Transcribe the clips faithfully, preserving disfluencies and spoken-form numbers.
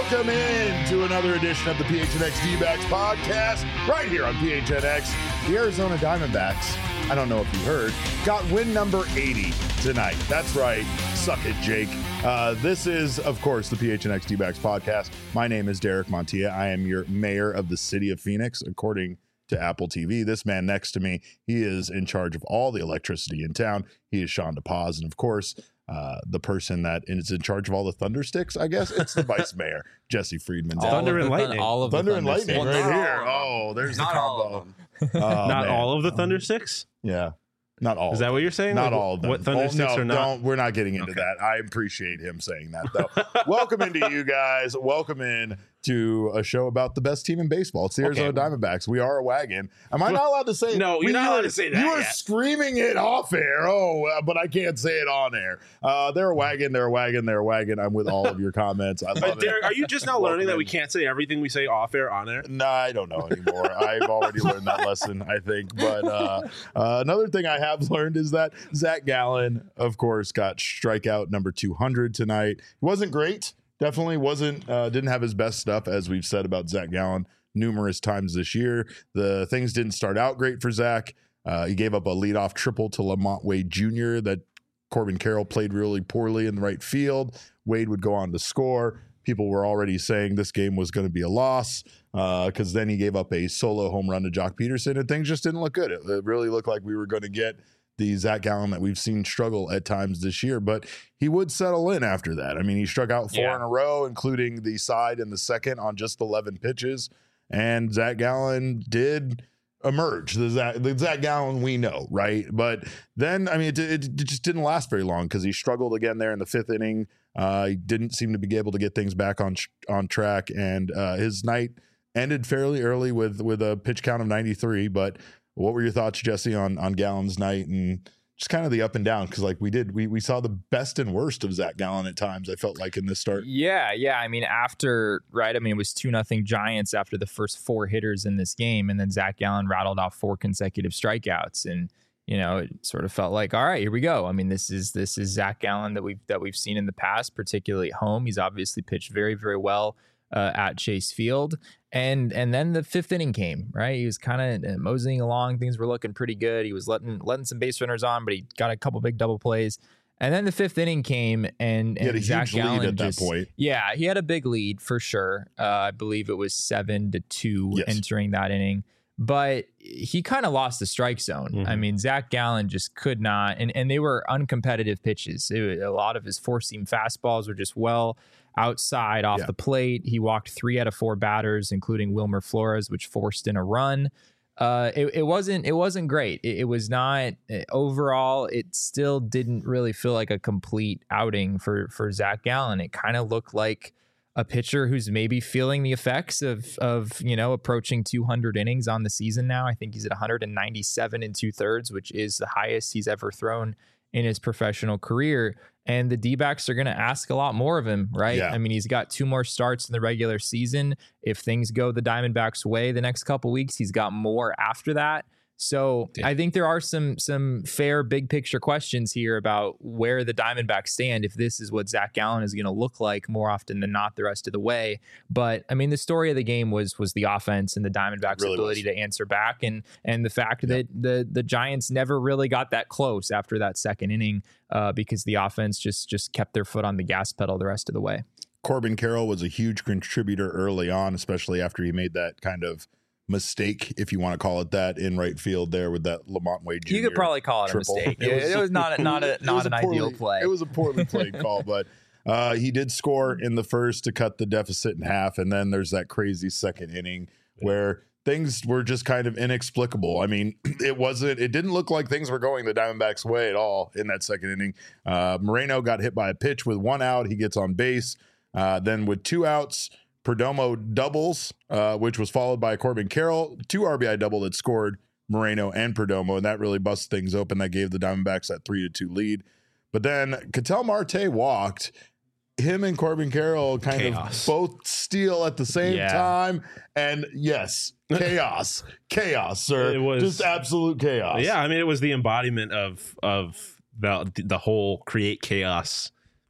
Welcome in to another edition of the P H N X D-Backs podcast, right here on P H N X. The Arizona Diamondbacks, I don't know if you heard, got win number eighty tonight. That's right. Suck it, Jake. Uh, this is, of course, the P H N X D-Backs podcast. My name is Derek Montilla. I am your mayor of the city of Phoenix, according to Apple T V. This man next to me, he is in charge of all the electricity in town. He is Sean DePaz, and of course, uh, the person that is in charge of all the thunder sticks, I guess, it's the vice mayor, Jesse Friedman. All thunder and lightning. All of thunder the and thunder lightning sticks. right here. Oh, there's Not the all combo. of them. Oh, Not man. all of the thunder sticks? Yeah. Not all. Is that of what them. you're saying? Not Like, all of them. what thunder oh, sticks no, are not? Don't, we're not getting into Okay. that. I appreciate him saying that, though. Welcome into you guys. Welcome in to a show about the best team in baseball. It's the Okay. Arizona Diamondbacks. We are a wagon. Am I not allowed to say? No, you're We- not you allowed were- to say that You were yet. screaming it off air. Oh, uh, but I can't say it on air. Uh, they're a wagon. They're a wagon. They're a wagon. I'm with all of your comments. I love But Derek, it. are you just now Welcome learning that we in. can't say everything we say off air on air? No, I don't know anymore. I've already learned that lesson, I think. But uh, uh, another thing I have learned is that Zach Gallen, of course, got strikeout number two hundred tonight. He wasn't great. Definitely wasn't, uh, didn't have his best stuff, as we've said about Zach Gallen numerous times this year. The things didn't start out great for Zach. Uh, he gave up a leadoff triple to Lamont Wade Junior that Corbin Carroll played really poorly in the right field. Wade would go on to score. People were already saying this game was going to be a loss because uh, then he gave up a solo home run to Jock Peterson, and things just didn't look good. It, it really looked like we were going to get the Zach Gallen that we've seen struggle at times this year, but he would settle in after that. I mean, he struck out four Yeah. in a row, including the side and the second on just eleven pitches, and Zach Gallen did emerge, the Zach, the Zach Gallen we know, right? But then, I mean, it, it, it just didn't last very long because he struggled again there in the fifth inning. Uh, he didn't seem to be able to get things back on on track, and uh, his night ended fairly early with with a pitch count of ninety-three. But what were your thoughts, Jesse, on on Gallen's night and just kind of the up and down? Because like we did, we we saw the best and worst of Zach Gallen at times. I felt like in this start. Yeah, yeah. I mean, after, right, I mean, it was two nothing Giants after the first four hitters in this game, and then Zach Gallen rattled off four consecutive strikeouts, and you know, it sort of felt like, all right, here we go. I mean, this is this is Zach Gallen that we've that we've seen in the past, particularly at home. He's obviously pitched very, very well uh, at Chase Field. And and then the fifth inning came, right? He was kind of moseying along. Things were looking pretty good. He was letting letting some base runners on, but he got a couple big double plays. And then the fifth inning came, and, He had and a Zach huge lead Gallen at that just, point. Yeah, he had a big lead for sure. Uh, I believe it was seven to two Yes. entering that inning. But he kind of lost the strike zone. Mhm. I mean, Zach Gallen just could not, and, and they were uncompetitive pitches. It was, a lot of his four-seam fastballs were just well outside off Yeah. the plate. He walked three out of four batters, including Wilmer Flores, which forced in a run. Uh, it, it wasn't it wasn't great. It, it was not overall. It still didn't really feel like a complete outing for for Zach Gallen. It kind of looked like a pitcher who's maybe feeling the effects of of you know approaching two hundred innings on the season now. I think he's at one hundred ninety-seven and two thirds, which is the highest he's ever thrown in his professional career. And the D-backs are going to ask a lot more of him, right? Yeah. I mean, he's got two more starts in the regular season. If things go the Diamondbacks' way the next couple weeks, he's got more after that. So Yeah. I think there are some some fair big picture questions here about where the Diamondbacks stand if this is what Zach Gallen is going to look like more often than not the rest of the way. But I mean, the story of the game was was the offense and the Diamondbacks' Really ability was. to answer back, and and the fact that the the Giants never really got that close after that second inning uh, because the offense just just kept their foot on the gas pedal the rest of the way. Corbin Carroll was a huge contributor early on, especially after he made that kind of mistake, if you want to call it that, in right field there with that Lamont Wade Junior You could probably call it triple. a mistake. It It was- was, it was not a, not a, It not was an a poorly- ideal play. It was a poorly played call, but uh, he did score in the first to cut the deficit in half, and then there's that crazy second inning where things were just kind of inexplicable. I mean, it wasn't, it didn't look like things were going the Diamondbacks' way at all in that second inning. Uh, Moreno got hit by a pitch with one out. He gets on base. Uh, then with two outs, Perdomo doubles, uh, which was followed by Corbin Carroll, two R B I double that scored Moreno and Perdomo, and that really busted things open. That gave the Diamondbacks that three to two lead. But then Ketel Marte walked. Him and Corbin Carroll kind Chaos. of both steal at the same Yeah. time. And yes, chaos. chaos, sir. It was- just absolute chaos. Yeah, I mean, it was the embodiment of of the the whole create chaos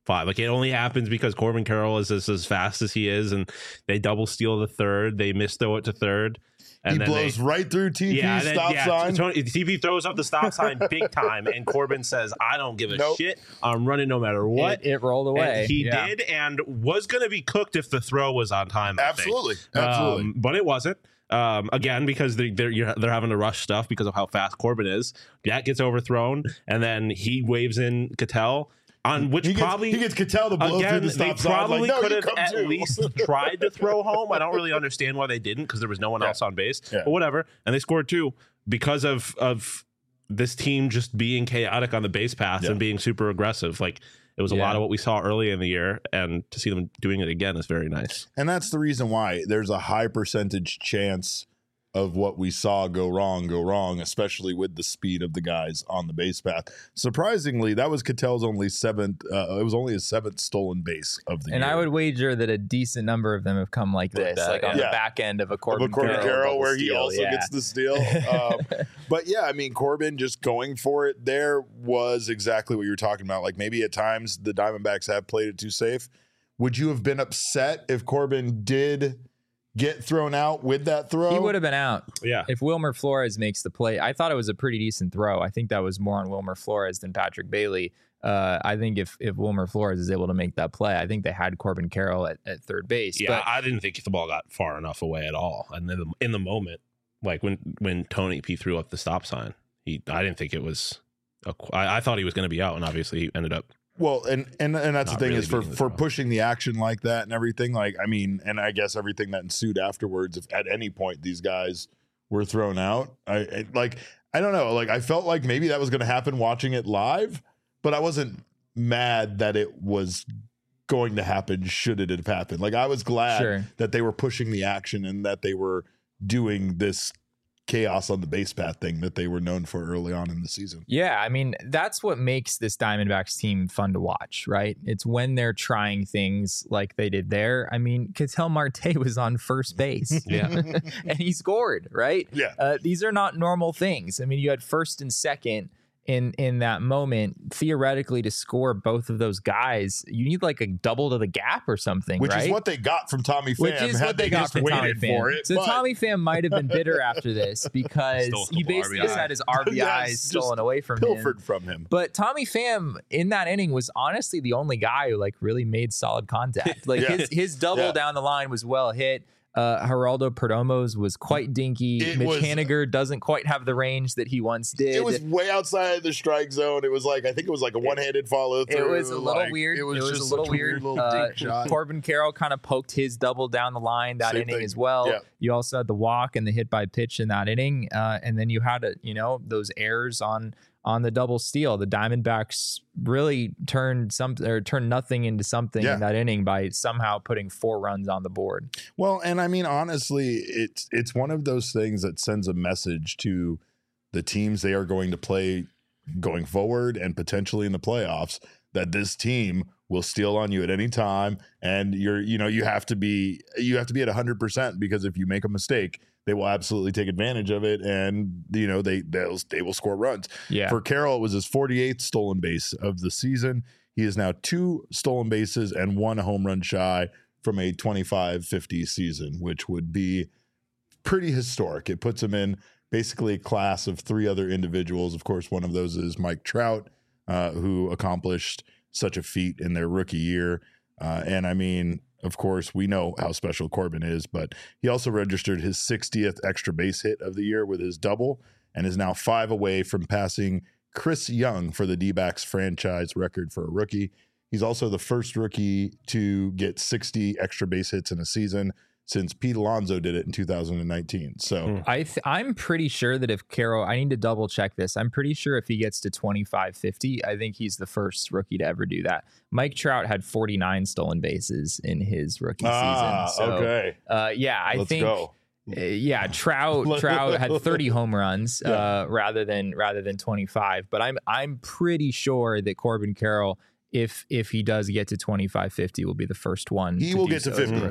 five. Like it only happens because Corbin Carroll is as, as fast as he is, and they double steal the third. They miss throw it to third. And he then blows they, right through T P yeah, then, stop yeah, sign. Tony, T P throws up the stop sign big time, and Corbin says, "I don't give a Nope. shit. I'm running no matter what." It, it rolled away. And he yeah. did, and was going to be cooked if the throw was on time. I think. Absolutely, absolutely. Um, but it wasn't. Um, again, because they, they're you're, they're having to rush stuff because of how fast Corbin is. That gets overthrown, and then he waves in Cattell. On which he gets, probably he gets Cattell to blow again, through the they stop sign. probably Like, no, could you have come at too. least tried to throw home. I don't really understand why they didn't because there was no one Yeah. else on base. Yeah. But whatever, and they scored two because of of this team just being chaotic on the base paths Yeah. and being super aggressive. Like it was a Yeah. lot of what we saw early in the year, and to see them doing it again is very nice. And that's the reason why there's a high percentage chance of what we saw go wrong, go wrong, especially with the speed of the guys on the base path. Surprisingly, that was Cattell's only seventh. Uh, it was only his seventh stolen base of the And year. I would wager that a decent number of them have come like Like this, that, like on yeah. the back end of a Of Corbin, a Corbin Carroll, Carroll, double where he steal, also yeah. gets the steal. Um, but yeah, I mean, Corbin just going for it there was exactly what you were talking about. Like maybe at times the Diamondbacks have played it too safe. Would you have been upset if Corbin did get thrown out with that throw? He would have been out. Yeah. If Wilmer Flores makes the play. I thought it was a pretty decent throw. I think that was more on Wilmer Flores than Patrick Bailey. Uh, I think if if Wilmer Flores is able to make that play, I think they had Corbin Carroll at, at third base. Yeah, But I didn't think the ball got far enough away at all. And in the, in the moment, like when when Tony P threw up the stop sign, he I didn't think it was. A, I, I thought he was going to be out, and obviously he ended up. Well, and and and that's Not the thing really is for beating the for throw. pushing the action like that and everything. Like I mean, and I guess everything that ensued afterwards. If at any point these guys were thrown out, I, I like I don't know. Like I felt like maybe that was going to happen watching it live, but I wasn't mad that it was going to happen. Should it have happened? Like I was glad Sure. that they were pushing the action and that they were doing this chaos on the base path thing that they were known for early on in the season. yeah, I mean, that's what makes this Diamondbacks team fun to watch, right? It's when they're trying things like they did there. I mean, Ketel Marte was on first base. Yeah. And he scored, right? Yeah. Uh, these are not normal things. I mean, you had first and second in in that moment. Theoretically, to score both of those guys, you need like a double to the gap or something, Which right? is what they got from Tommy Pham. Which is had what they got just from Tommy waited Pham. for it, so but- Tommy Pham might have been bitter after this because Stole a he couple basically R B just Is. had his R B Is Yes, just stolen away from him. pilfered from him. But Tommy Pham in that inning was honestly the only guy who like really made solid contact. Like Yeah. his his double Yeah. down the line was well hit. Uh, Geraldo Perdomo's was quite dinky. It Mitch was- Haniger doesn't quite have the range that he once did. It was way outside the strike zone. It was like I think it was like a one-handed follow through. It was a little like, weird. It was, just a such little weird. little Uh, dink shot. Corbin Carroll kind of poked his double down the line that Same inning thing. as well. Yeah. You also had the walk and the hit by pitch in that inning, uh, and then you had a, you know those errors on on the double steal. The Diamondbacks really turned some or turned nothing into something Yeah. in that inning by somehow putting four runs on the board. Well, and I mean honestly, it's it's one of those things that sends a message to the teams they are going to play going forward and potentially in the playoffs that this team will steal on you at any time, and you're you know you have to be you have to be at one hundred percent because if you make a mistake, they will absolutely take advantage of it, and you know they they'll, they will score runs. Yeah. For Carroll, it was his forty-eighth stolen base of the season. He is now two stolen bases and one home run shy from a twenty-five fifty season, which would be pretty historic. It puts him in basically a class of three other individuals. Of course, one of those is Mike Trout, uh, who accomplished such a feat in their rookie year. Uh, and I mean, of course, we know how special Corbin is, but he also registered his sixtieth extra base hit of the year with his double and is now five away from passing Chris Young for the D-backs franchise record for a rookie. He's also the first rookie to get sixty extra base hits in a season since Pete Alonso did it in two thousand nineteen. So Hmm. I th- I'm pretty sure that if Carroll, I need to double check this. I'm pretty sure if he gets to twenty-five fifty, I think he's the first rookie to ever do that. Mike Trout had forty-nine stolen bases in his rookie ah, season. So, okay. uh, yeah, I Let's think, go. uh, yeah, Trout Trout had thirty home runs uh, Yeah. rather than rather than twenty-five. But I'm I'm pretty sure that Corbin Carroll, if if he does get to twenty-five fifty, will be the first one. He to will do get to so as a fifty. rookie.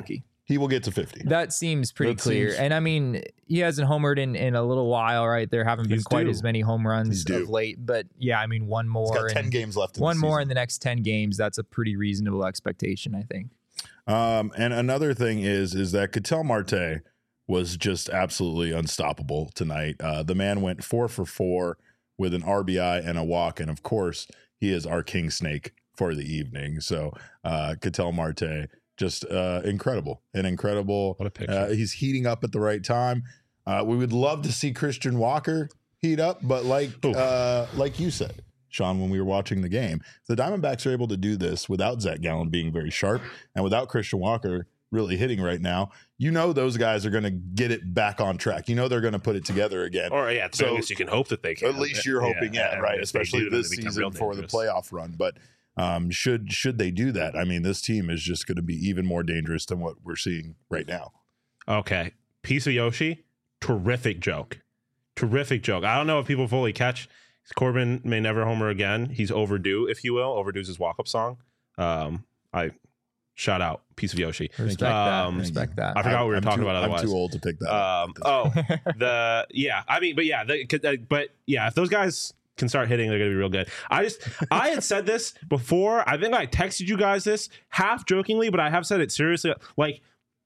he will get to fifty. That seems pretty That clear. seems- And I mean, he hasn't homered in, in a little while, right? There haven't been He's quite due. as many home runs He's due. of late. But yeah, I mean, one more. He's got ten in- games left. In One the more season. in the next ten games. That's a pretty reasonable expectation, I think. Um, and another thing is is that Ketel Marte was just absolutely unstoppable tonight. Uh, the man went four for four with an R B I and a walk, and of course, he is our king snake for the evening. So, uh, Ketel Marte, just uh, incredible, an incredible. What a picture. Uh, he's heating up at the right time. Uh, we would love to see Christian Walker heat up, but like Ooh. uh, like you said, Sean, when we were watching the game, the Diamondbacks are able to do this without Zach Gallen being very sharp and without Christian Walker really hitting right now. You know those guys are going to get it back on track. You know they're going to put it together again. Or yeah, So, so, I guess you can hope that they can. At least you're hoping, yeah, and right? if they Especially do, then this they become season real for the dangerous. playoff run. But um, should should they do that? I mean, this team is just going to be even more dangerous than what we're seeing right now. Okay. Piece of Yoshi, terrific joke. Terrific joke. I don't know if people fully catch. Corbin may never homer again. He's overdue, if you will. Overdue's his walk-up song. Um, I shout out Piece of Yoshi. Respect Um, that. Respect that. I forgot what we were I'm talking too- about otherwise. I'm too old to pick that. up. Um, oh, the yeah. I mean, but yeah, the, could- uh, but yeah, if those guys can start hitting, they're gonna be real good. I just I had said this before. I think I texted you guys this half jokingly, but I have said it seriously. Like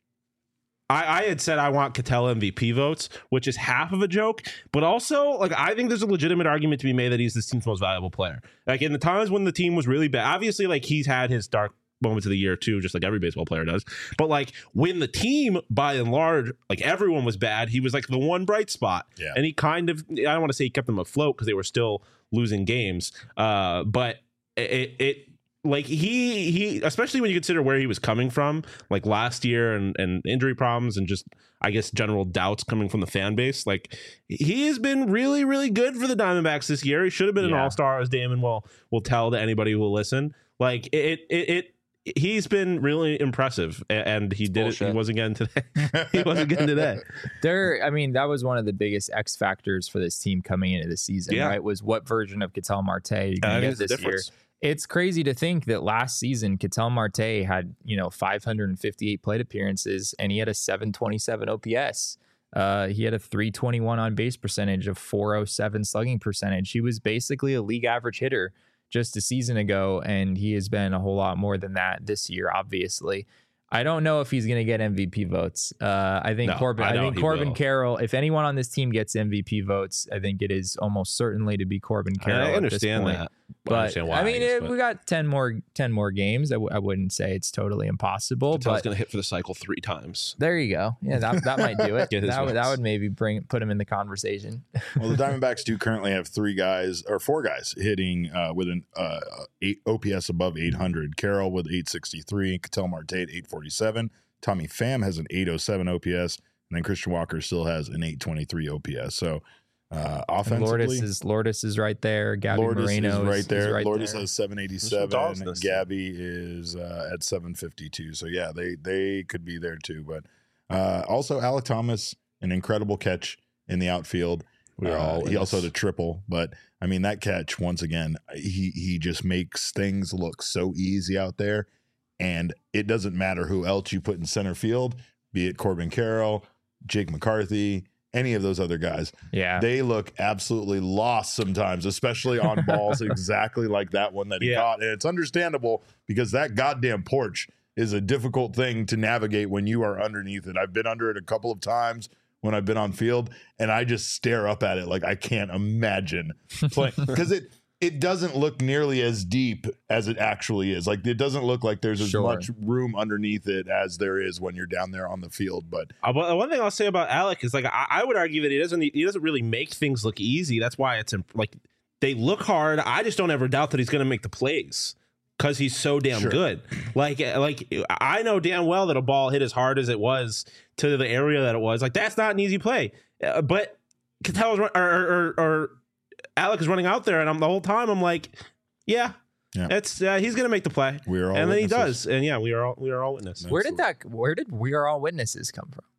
I, I had said I want Ketel M V P votes, which is half of a joke, but also like I think there's a legitimate argument to be made that he's this team's most valuable player. Like in the times when the team was really bad, obviously like he's had his dark moments of the year too, just like every baseball player does. But like when the team, by and large, like everyone was bad, he was like the one bright spot. Yeah. And he kind of, I don't want to say he kept them afloat because they were still losing games. Uh, but it, it, like he, he, especially when you consider where he was coming from, like last year and, and injury problems and just, I guess, general doubts coming from the fan base. Like he has been really, really good for the Diamondbacks this year. He should have been an Yeah. all-star, as Damon will, will tell to anybody who will listen. Like it, it, it, he's been really impressive, a- and he did it. He bullshit. wasn't getting today. he wasn't getting today. There, I mean, that was one of the biggest X factors for this team coming into the season, Yeah. right? Was what version of Ketel Marte are you I going to think get it's the this year? difference. It's crazy to think that last season Ketel Marte had, you know, five hundred fifty-eight plate appearances and he had a seven twenty-seven O P S. Uh, he had a three twenty-one on base percentage, of four oh seven slugging percentage. He was basically a league average hitter just a season ago, and he has been a whole lot more than that this year, obviously. I don't know if he's going to get M V P votes. Uh, I think No, Corbin. I I, know think he Corbin will. Carroll. If anyone on this team gets M V P votes, I think it is almost certainly to be Corbin Carroll. I understand at this point. that. I But understand why, I mean, guess, if but we got ten more, ten more games. I, w- I wouldn't say it's totally impossible. Ketel's But going to hit for the cycle three times. there you go. Yeah, that that might do it. Get his that would that votes. would maybe bring put him in the conversation. Well, the Diamondbacks do currently have three guys or four guys hitting uh, with an uh, eight O P S above eight hundred. Carroll with eight sixty-three, Ketel Marte at eight forty-seven. Tommy Pham has an eight oh seven O P S, and then Christian Walker still has an eight twenty-three O P S. So uh, And offensively, Lourdes is Lourdes is right there. Gabby Lourdes Moreno is is right there. Is right Lourdes there. has seven eighty-seven. dogs in this team. Gabby is uh, at seven fifty-two. So yeah, they they could be there too. But uh, also Alec Thomas, an incredible catch in the outfield. We were Uh, all he in also this. had a triple, but I mean that catch once again, he he just makes things look so easy out there, and it doesn't matter who else you put in center field, be it Corbin Carroll, Jake McCarthy, any of those other guys. Yeah. They look absolutely lost sometimes, especially on balls exactly like that one that he Yeah. caught, and it's understandable because that goddamn porch is a difficult thing to navigate when you are underneath it. I've been under it a couple of times when I've been on field, and I just stare up at it like I can't imagine playing because it it doesn't look nearly as deep as it actually is. Like it doesn't look like there's as Sure. much room underneath it as there is when you're down there on the field. But Uh, but one thing I'll say about Alec is like I, I would argue that he doesn't he doesn't really make things look easy. That's why it's imp- like they look hard. I just don't ever doubt that he's going to make the plays because he's so damn Sure. good. Like like I know damn well that a ball hit as hard as it was to the area that it was. Like that's not an easy play. Uh, but Ketel's run, or, or, or, or Alec is running out there, and I'm the whole time I'm like, yeah, Yeah. it's uh, he's going to make the play, we're all and then he witnesses. does, and yeah, we are all we are all witnesses. Where did that? Where did we are all witnesses come from?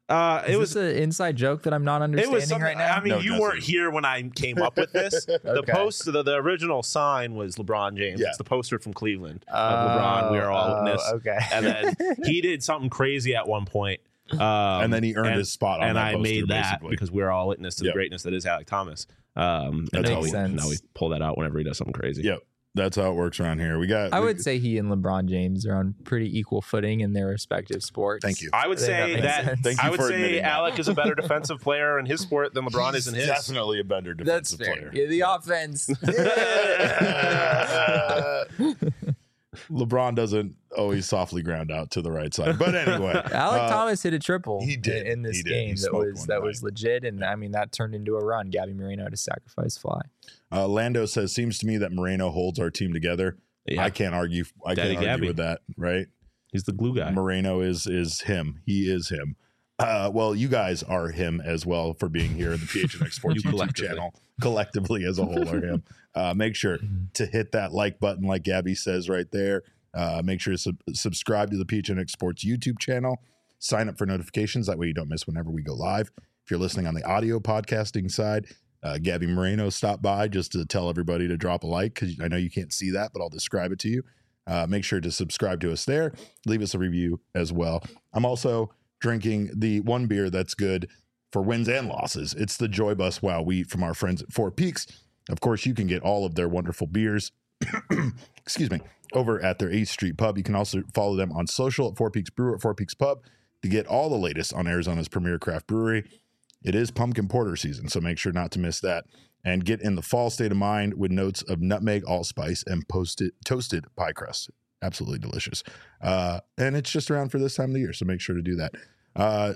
Uh, Is it was this an inside joke that I'm not It understanding was something. right now. I mean, No, you Jesse. weren't here when I came up with this. The Okay. post, the, the original sign was LeBron James. Yeah. It's the poster from Cleveland of LeBron. We are all Oh, witness. okay. And then he did something crazy at one point. Um, and then he earned and, his spot on and that I poster, made that basically. because we're all witness to the Yep. greatness that is Alec Thomas. Um, That's and now how we, we- sense. now we pull that out whenever he does something crazy. Yep. That's how it works around here. We got. I we- would say he and LeBron James are on pretty equal footing in their respective sports. Thank you. I would I think that say makes that, sense. Thank you I would for say admitting that. Alec is a better defensive player in his sport than LeBron is in his. Definitely a better That's defensive fair. player. Yeah, the offense. LeBron doesn't always softly ground out to the right side, but anyway, Alec uh, Thomas hit a triple. he did. in, in this He did. game. He That smoked was one that tonight. was legit, and I mean that turned into a run. Gabby Moreno to sacrifice fly. Uh, Lando says, "Seems to me that Moreno holds our team together." Yeah. I can't argue. I Daddy can't argue Gabby. with that. Right? He's the glue guy. Moreno is is him. He is him. Uh, well, you guys are him as well for being here in the P H N X Sports You YouTube collectively. channel. Collectively as a whole are him. Uh, make sure to hit that like button, like Gabby says right there. Uh, make sure to sub- subscribe to the P H N X Sports YouTube channel. Sign up for notifications. That way you don't miss whenever we go live. If you're listening on the audio podcasting side, uh, Gabby Moreno stopped by just to tell everybody to drop a like because I know you can't see that, but I'll describe it to you. Uh, make sure to subscribe to us there. Leave us a review as well. I'm also drinking the one beer that's good for wins and losses. It's the Joy Bus Wow Wheat from our friends at Four Peaks. Of course, you can get all of their wonderful beers, excuse me, over at their eighth Street Pub. You can also follow them on social at Four Peaks Brewer at Four Peaks Pub to get all the latest on Arizona's premier craft brewery. It is pumpkin porter season, so make sure not to miss that. And get in the fall state of mind with notes of nutmeg, allspice, and posted, toasted pie crust. Absolutely delicious. Uh, and it's just around for this time of the year, so make sure to do that. Uh,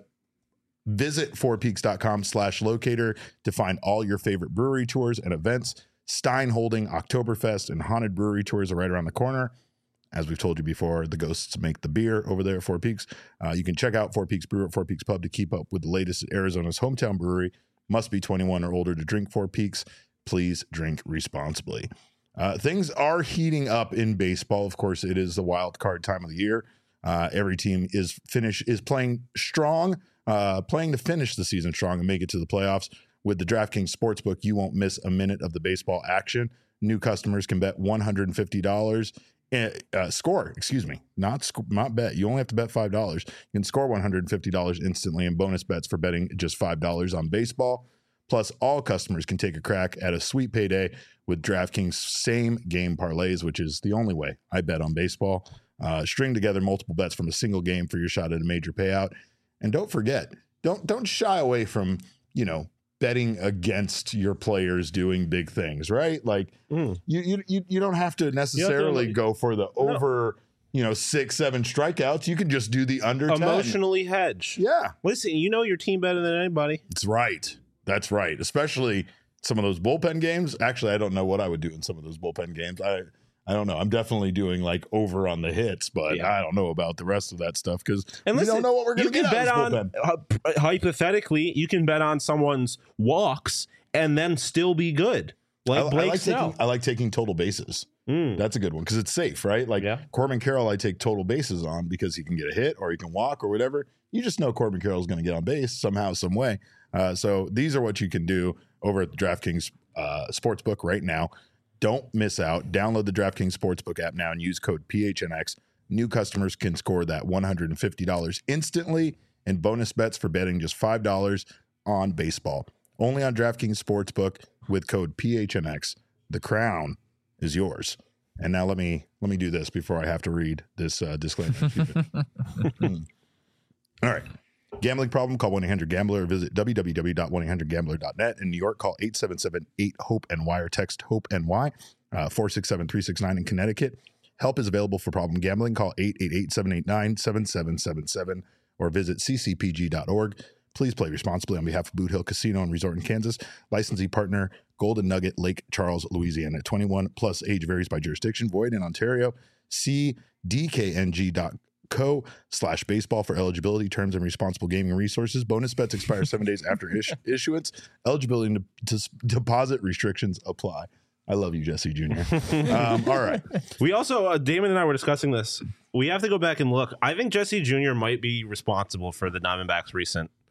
visit fourpeaks.com slash locator to find all your favorite brewery tours and events. Stein holding Oktoberfest and Haunted Brewery tours are right around the corner. As we've told you before, the ghosts make the beer over there at Four Peaks. Uh, you can check out Four Peaks Brewer at Four Peaks Pub to keep up with the latest at Arizona's hometown brewery. Must be twenty-one or older to drink Four Peaks. Please drink responsibly. Uh, things are heating up in baseball. Of course, it is the wild card time of the year. Uh, every team is finish is playing strong, uh, playing to finish the season strong and make it to the playoffs. With the DraftKings Sportsbook, you won't miss a minute of the baseball action. New customers can bet one hundred fifty dollars. Uh, score, excuse me, not sc- not bet. You only have to bet five dollars. You can score one hundred fifty dollars instantly in bonus bets for betting just five dollars on baseball. Plus, all customers can take a crack at a sweet payday with DraftKings same game parlays, which is the only way I bet on baseball. Uh, string together multiple bets from a single game for your shot at a major payout. And don't forget, don't don't shy away from, you know, betting against your players doing big things, right? Like Mm. you, you you you don't have to necessarily like- go for the over, you know, six, seven strikeouts. You can just do the under ten. Emotionally hedge. Yeah, Listen, you know your team better than anybody. that's right. That's right. Especially some of those bullpen games. Actually, I don't know what I would do in some of those bullpen games. I I don't know. I'm definitely doing like over on the hits, but Yeah. I don't know about the rest of that stuff because we And listen, don't know what we're going you to can get out bet of this on bullpen. uh, hypothetically, you can bet on someone's walks and then still be good, like I, I Blake like Snell. taking I like taking total bases. Mm. That's a good one because it's safe, right? Like Yeah. Corbin Carroll, I take total bases on because he can get a hit or he can walk or whatever. You just know Corbin Carroll is going to get on base somehow, some way. Uh, so these are what you can do over at the DraftKings uh, Sportsbook right now. Don't miss out. Download the DraftKings Sportsbook app now and use code P H N X. New customers can score that one hundred fifty dollars instantly in bonus bets for betting just five dollars on baseball. Only on DraftKings Sportsbook with code P H N X. The crown is yours. And now let me let me do this before I have to read this uh, disclaimer. Hmm. All right. Gambling problem? Call one eight hundred gambler or visit w w w dot one eight hundred gambler dot net. In New York, call eight seven seven eight hope N Y or text HOPE-NY, uh, four six seven three six nine in Connecticut. Help is available for problem gambling. Call eight eight eight seven eight nine seven seven seven seven or visit c c p g dot org. Please play responsibly on behalf of Boot Hill Casino and Resort in Kansas. Licensee partner, Golden Nugget, Lake Charles, Louisiana. twenty-one plus age varies by jurisdiction. Void in Ontario. See d k n g dot co slash baseball for eligibility, terms, and responsible gaming resources. Bonus bets expire seven days after is- issuance. Eligibility to, to deposit restrictions apply. I love you, Jesse Junior Um, all right. We also, uh, Damon and I were discussing this. We have to go back and look. I think Jesse Junior might be responsible for the Diamondbacks' recent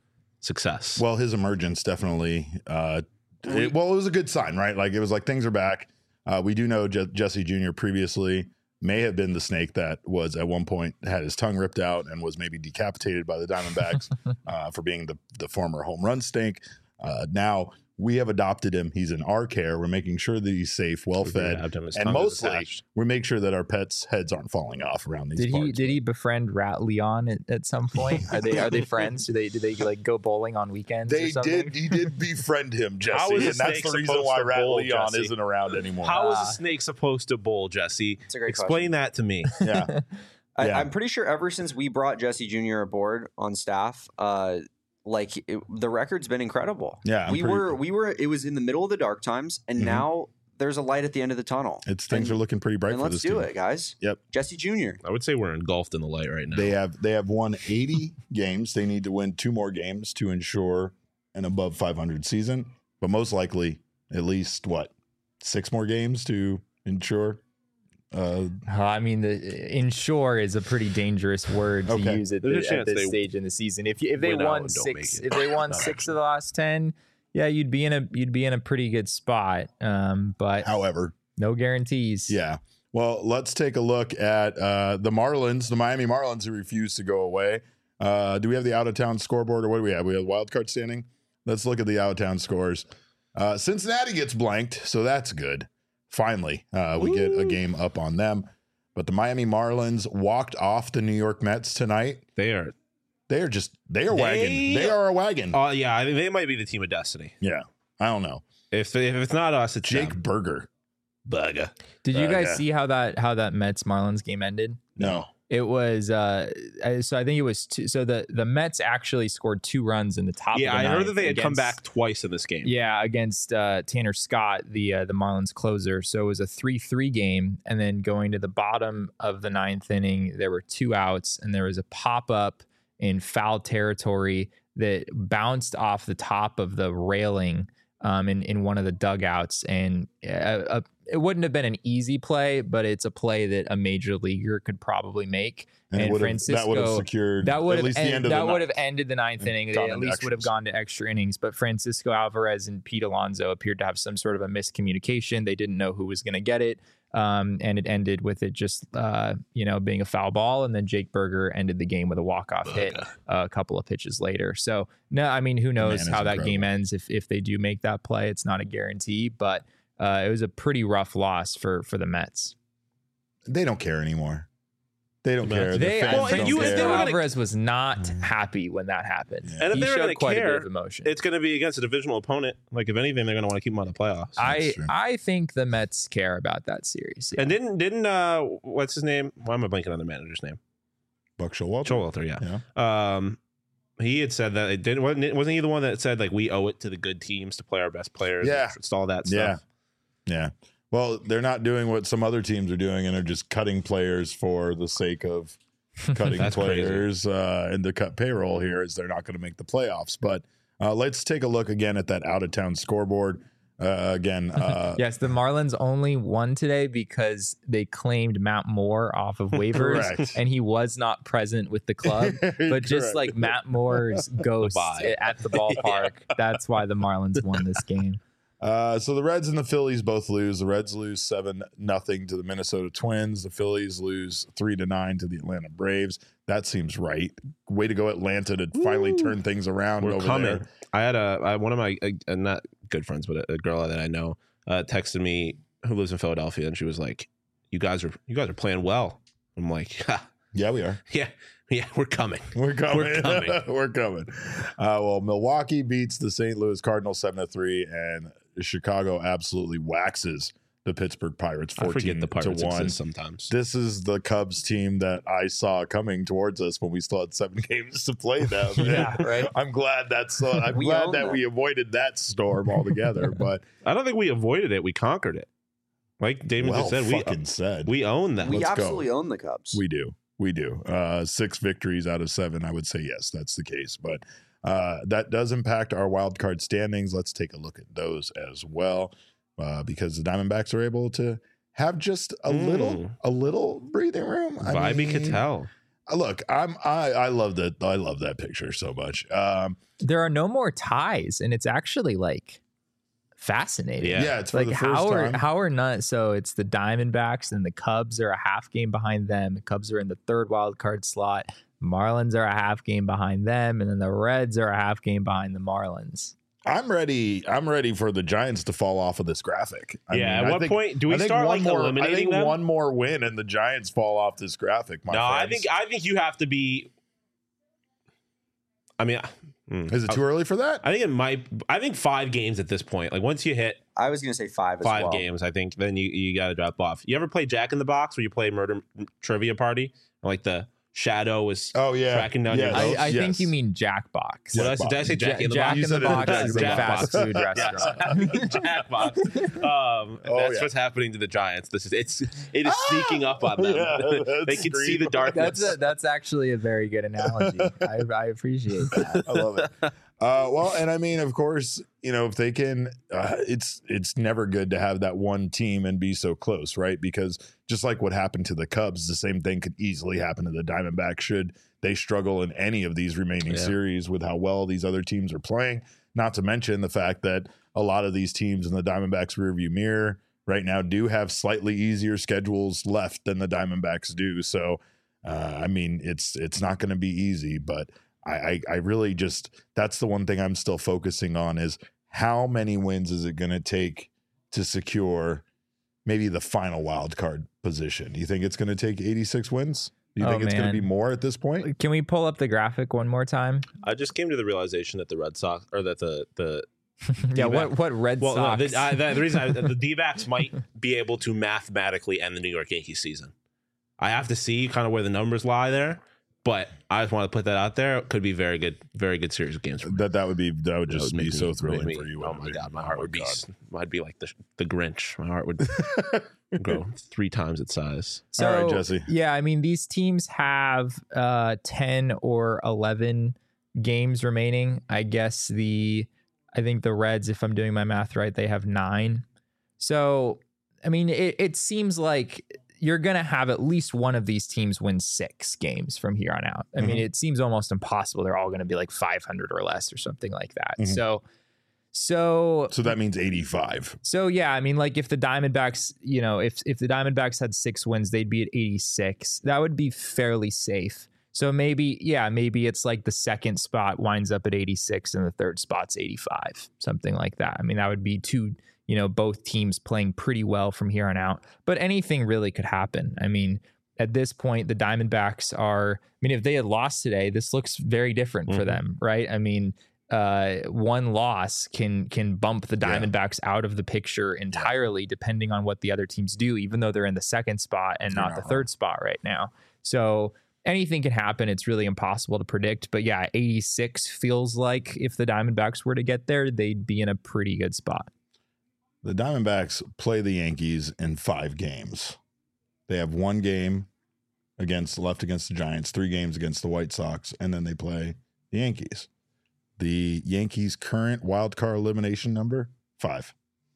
success. Well, his emergence definitely. Uh, it, well, it was a good sign, right? Like it was like things are back. Uh, we do know Je- Jesse Junior previously may have been the snake that was at one point had his tongue ripped out and was maybe decapitated by the Diamondbacks uh, for being the the former home run snake. Uh, now we have adopted him. He's in our care. We're making sure that he's safe, well fed, and mostly we make sure that our pets' heads aren't falling off around these. Did parts. he did he befriend Rat Leon at, at some point? Are they are they friends? Do they do they like go bowling on weekends? They or something? did. He did befriend him, Jesse, How is a and that's snake the reason supposed why to Rat bowl, Leon Jesse? isn't around anymore. How is Ah. a snake supposed to bowl, Jesse? It's a great Explain question. that to me. Yeah, I, Yeah. I'm pretty sure ever since we brought Jesse Junior aboard on staff, uh, like it, the record's been incredible. yeah. I'm we pretty- were we were it was in the middle of the dark times, and Mhm. now there's a light at the end of the tunnel. It's things and, are looking pretty bright and for let's this do team. it, guys. Yep. Jesse Junior I would say we're engulfed in the light right now. They have they have won eighty games. They need to win two more games to ensure an above five hundred season, but most likely at least what six more games to ensure. Uh, Uh, I mean, the ensure is a pretty dangerous word to Okay. use at, There's a the, at chance this they stage in the season. If you, if they win out won and don't six, make it. if they won Not six of the last ten, yeah, you'd be in a you'd be in a pretty good spot. Um, but however, no guarantees. yeah. Well, let's take a look at uh, the Marlins, the Miami Marlins, who refuse to go away. Uh, do we have the out of town scoreboard, or what do we have? We have wild card standing. Let's look at the out of town scores. Uh, Cincinnati gets blanked, so that's good. Finally, uh, we get a game up on them. But the Miami Marlins walked off the New York Mets tonight. They are. They are just they are They- wagon. They are a wagon. Oh yeah, I mean, they might be the team of destiny. yeah, I don't know. If if it's not us, it's Jake them. Berger. Bugger. Did you Uh, guys yeah. see how that how that Mets Marlins game ended? No. It was uh, I- so I think it was two, so the the Mets actually scored two runs in the top. Yeah, of the I heard ninth that they had come against- back twice in this game. Yeah, against uh, Tanner Scott, the uh, the Marlins closer. So it was a three three game, and then going to the bottom of the ninth inning, there were two outs, and there was a pop up in foul territory that bounced off the top of the railing um, in in one of the dugouts, and uh, uh, it wouldn't have been an easy play, but it's a play that a major leaguer could probably make. And, And it would have, Francisco- that would have secured That would at have least end, the end of that the would ninth. have ended the ninth and inning. They gone at into least would have extras. gone to extra innings. But Francisco Alvarez and Pete Alonso appeared to have some sort of a miscommunication. They didn't know who was going to get it, um, and it ended with it just uh, you know being a foul ball. And then Jake Berger ended the game with a walk off hit uh, a couple of pitches later. So no, I mean who knows man is how that game incredible. ends if if they do make that play. It's not a guarantee, but uh, it was a pretty rough loss for for the Mets. They don't care anymore. They don't care. The They, fans Well, and don't you- if care. they were gonna- Alvarez was not Mm. happy when that happened. Yeah. And if He they were showed going to quite a bit care, of emotion. it's going to be against a divisional opponent. Like if anything, they're going to want to keep them on the playoffs. I true. I think the Mets care about that series. yeah. and didn't didn't uh what's his name? Why am I blanking on the manager's name? Buck Showalter. Showalter, yeah. Yeah. Um, he had said that it didn't wasn't, it, wasn't he the one that said like we owe it to the good teams to play our best players? Yeah. it's all that Yeah. stuff. Yeah. Well, they're not doing what some other teams are doing, and they're just cutting players for the sake of cutting That's players uh, and to cut payroll here, is they're not going to make the playoffs. But uh, let's take a look again at that out of town scoreboard. Uh, again, uh, Yes, the Marlins only won today because they claimed Matt Moore off of waivers, Correct. and he was not present with the club. But just correct. like Matt Moore's ghost bye. at the ballpark, that's why the Marlins won this game. Uh, so the Reds and the Phillies both lose. The Reds lose seven nothing to the Minnesota Twins. The Phillies lose three to nine to the Atlanta Braves. That seems right. Way to go, Atlanta, to finally Woo. turn things around We're over coming. there. I had a I, one of my uh, not good friends, but a, a girl that I know uh, texted me who lives in Philadelphia, and she was like, "You guys are you guys are playing well." I'm like, ha, Yeah, we are. "Yeah, yeah, we're coming." We're coming. We're coming. We're coming. Uh, well, Milwaukee beats the Saint Louis Cardinals seven to three, and Chicago absolutely waxes the Pittsburgh Pirates I forget fourteen the Pirates to one. exist sometimes. This is the Cubs team that I saw coming towards us when we still had seven games to play them. Yeah, right. I'm glad that's. Uh, I'm We glad own that them. we avoided that storm altogether. But I don't think we avoided it; we conquered it. Like Damon well just said, we fucking said we own them. We Let's go. absolutely own the Cubs. We do. We do. Uh, six victories out of seven. I would say yes, that's the case. But uh, that does impact our wild card standings. Let's take a look at those as well, uh, because the Diamondbacks are able to have just a Mm. little, a little breathing room. I Vibey mean, could tell. look, I'm I I love that I love that picture so much. Um, There are no more ties, and it's actually like fascinating. Yeah. yeah, it's for Like the how first are time. how are not so it's the Diamondbacks and the Cubs are a half game behind them. The Cubs are in the third wild card slot. Marlins are a half game behind them, and then the Reds are a half game behind the Marlins. I'm ready. I'm ready for the Giants to fall off of this graphic. I yeah. mean, At I what think- point do I we think start one like more, I eliminating think them? one more win and the Giants fall off this graphic. My no, I friends. think I think you have to be. I mean, mm, Is it too early for that? I think it might. I think five games at this point. Like once you hit I was gonna say five as five well. games, I think then you you got to drop off. You ever play Jack in the Box where you play Murder Trivia Party? Like the shadow is Oh yeah, tracking down yes. your I, votes? I Yes. think you mean Jackbox. What did I say? Did I say Jack Ja- in the Jack Box? You in the said it Box Jack is in a the fast Box. food Yes. restaurant. Jackbox. Um, Oh, that's yeah. what's happening to the Giants. This is it's it is sneaking up on them. Yeah, they that's can see the scream. darkness. That's a, that's actually a very good analogy. I, I appreciate that. I love it. Uh, well, and I mean, of course, you know, if they can, uh, it's it's never good to have that one team and be so close, right? Because just like what happened to the Cubs, the same thing could easily happen to the Diamondbacks should they struggle in any of these remaining Yeah. series with how well these other teams are playing. Not to mention the fact that a lot of these teams in the Diamondbacks rearview mirror right now do have slightly easier schedules left than the Diamondbacks do. So, uh, I mean, it's it's not going to be easy, but. I, I I really just that's the one thing I'm still focusing on is how many wins is it going to take to secure maybe the final wild card position? Do you think it's going to take eighty-six wins? Do you Oh, think it's going to man. be more at this point? Can we pull up the graphic one more time? I just came to the realization that the Red Sox or that the the Yeah, what what Red well Sox? no, the, I, the, the reason I, the D-backs might be able to mathematically end the New York Yankees season. I have to see kind of where the numbers lie there, but I just want to put that out there. It could be very good, very good series of games. For me. That that would be that would That just would be make so me- thrilling make me- for you. Oh wouldn't my it? god, my Oh heart would be God. I'd be like the the Grinch. My heart would grow three times its size. So, All right, Jesse. Yeah, I mean, these teams have uh, ten or eleven games remaining. I guess the, I think the Reds, if I'm doing my math right, they have nine. So, I mean, it, it seems like you're going to have at least one of these teams win six games from here on out. I mean, Mhm. it seems almost impossible. They're all going to be like five hundred or less or something like that. Mhm. So, so So that means eighty-five. so yeah, I mean, like if the Diamondbacks, you know, if if the Diamondbacks had six wins, they'd be at eighty-six. That would be fairly safe. So maybe, yeah, maybe it's like the second spot winds up at eighty-six and the third spot's eighty-five, something like that. I mean, that would be two, you know, both teams playing pretty well from here on out. But anything really could happen. I mean, at this point, the Diamondbacks are, I mean, if they had lost today, this looks very different for Mhm. them, right? I mean, uh, one loss can can bump the Yeah. Diamondbacks out of the picture entirely, depending on what the other teams do, even though they're in the second spot and You're not not the wrong. third spot right now. So anything can happen. It's really impossible to predict. But yeah, eighty-six feels like if the Diamondbacks were to get there, they'd be in a pretty good spot. The Diamondbacks play the Yankees in five games. They have one game against left against the Giants, three games against the White Sox, and then they play the Yankees. The Yankees' current wild card elimination number, five.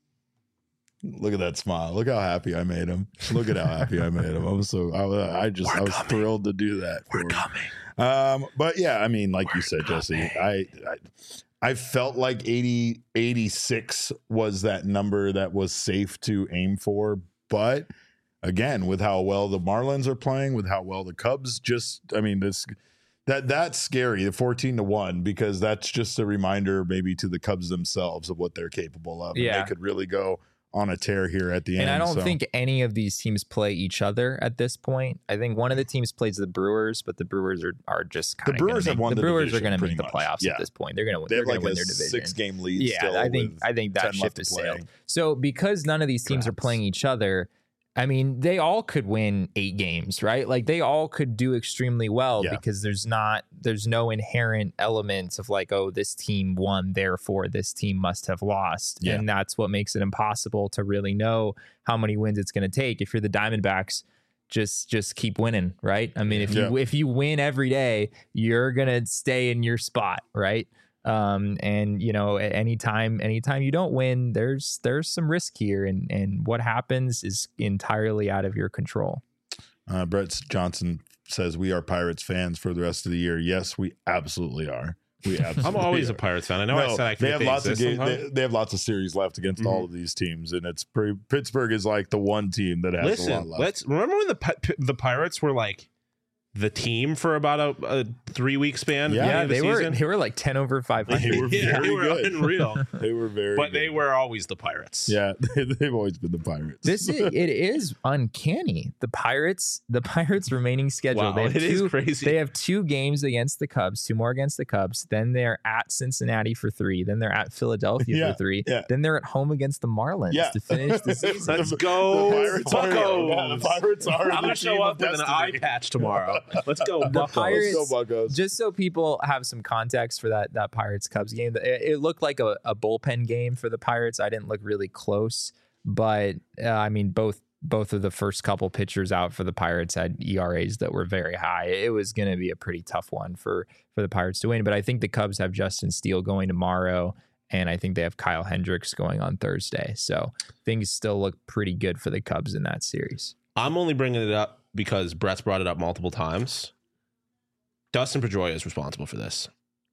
Look at that smile. Look how happy I made him. Look at how happy I made him. I'm so I, I just We're I was coming. thrilled to do that. We're for him. coming. Um, but yeah, I mean, like you We're said, Jesse, coming. I, I I felt like eighty, eighty-six was that number that was safe to aim for. But again, with how well the Marlins are playing, with how well the Cubs just, I mean, this that that's scary, the fourteen to one, because that's just a reminder maybe to the Cubs themselves of what they're capable of. And Yeah. they could really go on a tear here at the And end. I don't so. think any of these teams play each other at this point. I think one of the teams plays the Brewers, but the Brewers are are just kind of Brewers make, have won the the Brewers division are going to pretty make the much. playoffs Yeah. at this point. They're going to they they're have like going to win a their division. six game lead. Yeah, still I think with I think that ten ship left to has play. sailed. So because none of these teams are Perhaps. playing each other, I mean, they all could win eight games, right? Like they all could do extremely well Yeah. because there's not there's no inherent elements of like, oh, this team won, therefore this team must have lost. Yeah. And that's what makes it impossible to really know how many wins it's going to take. If you're the Diamondbacks, just just keep winning, right? I mean, if you Yeah. if you win every day, you're gonna stay in your spot, right? Um, and you know, at any time, anytime you don't win, there's there's some risk here, and and what happens is entirely out of your control. Uh, Brett Johnson says we are Pirates fans for the rest of the year. Yes, we absolutely are. We absolutely I'm always are. a Pirates fan. I know I No, said I they have think lots of exist ga- they, sometimes. they have lots of series left against all of these teams, and it's pretty, Pittsburgh is like the one team that has a lot Listen, left. let's remember when the Pi- the Pirates were like the team for about a, a three week span. Yeah, at the Yeah, end of the they were season. they were like ten over five They hundred. were yeah, very they were good. unreal. They were very, But they good. were always the Pirates. Yeah, they, they've always been the Pirates. This is it is uncanny. The Pirates, the Pirates remaining schedule. Wow, they have it is two, crazy. They have two games against the Cubs, two more against the Cubs. Then they're at Cincinnati for three. Then they're at Philadelphia Yeah, for three. yeah. Then they're at home against the Marlins Yeah. to finish the season. Let's go, The Pirates are, Buccos. yeah, the Pirates are I'm the gonna team show of up with an destiny. eye patch tomorrow. Let's go, The Buccos. Pirates- Let's go, Buccos. Just so people have some context for that that Pirates Cubs game, it, it looked like a, a bullpen game for the Pirates. I didn't look really close, but uh, I mean both both of the first couple pitchers out for the Pirates had E R As that were very high. It was going to be a pretty tough one for for the Pirates to win. But I think the Cubs have Justin Steele going tomorrow, and I think they have Kyle Hendricks going on Thursday. So things still look pretty good for the Cubs in that series. I'm only bringing it up because Brett's brought it up multiple times. Dustin Pedroia is responsible for this.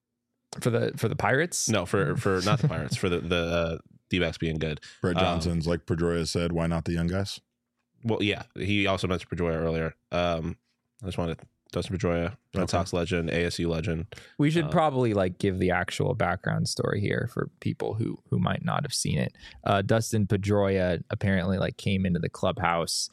For the for the Pirates, No, for for not the Pirates, for the the uh, D-backs being good. Brett Um, Johnson's like Pedroia said, why not the young guys? Well, yeah, he also mentioned Pedroia earlier. Um, I just wanted Dustin Pedroia, Red Okay. Sox legend, A S U legend. we should Uh, probably like give the actual background story here for people who who might not have seen it. Uh, Dustin Pedroia apparently like came into the clubhouse.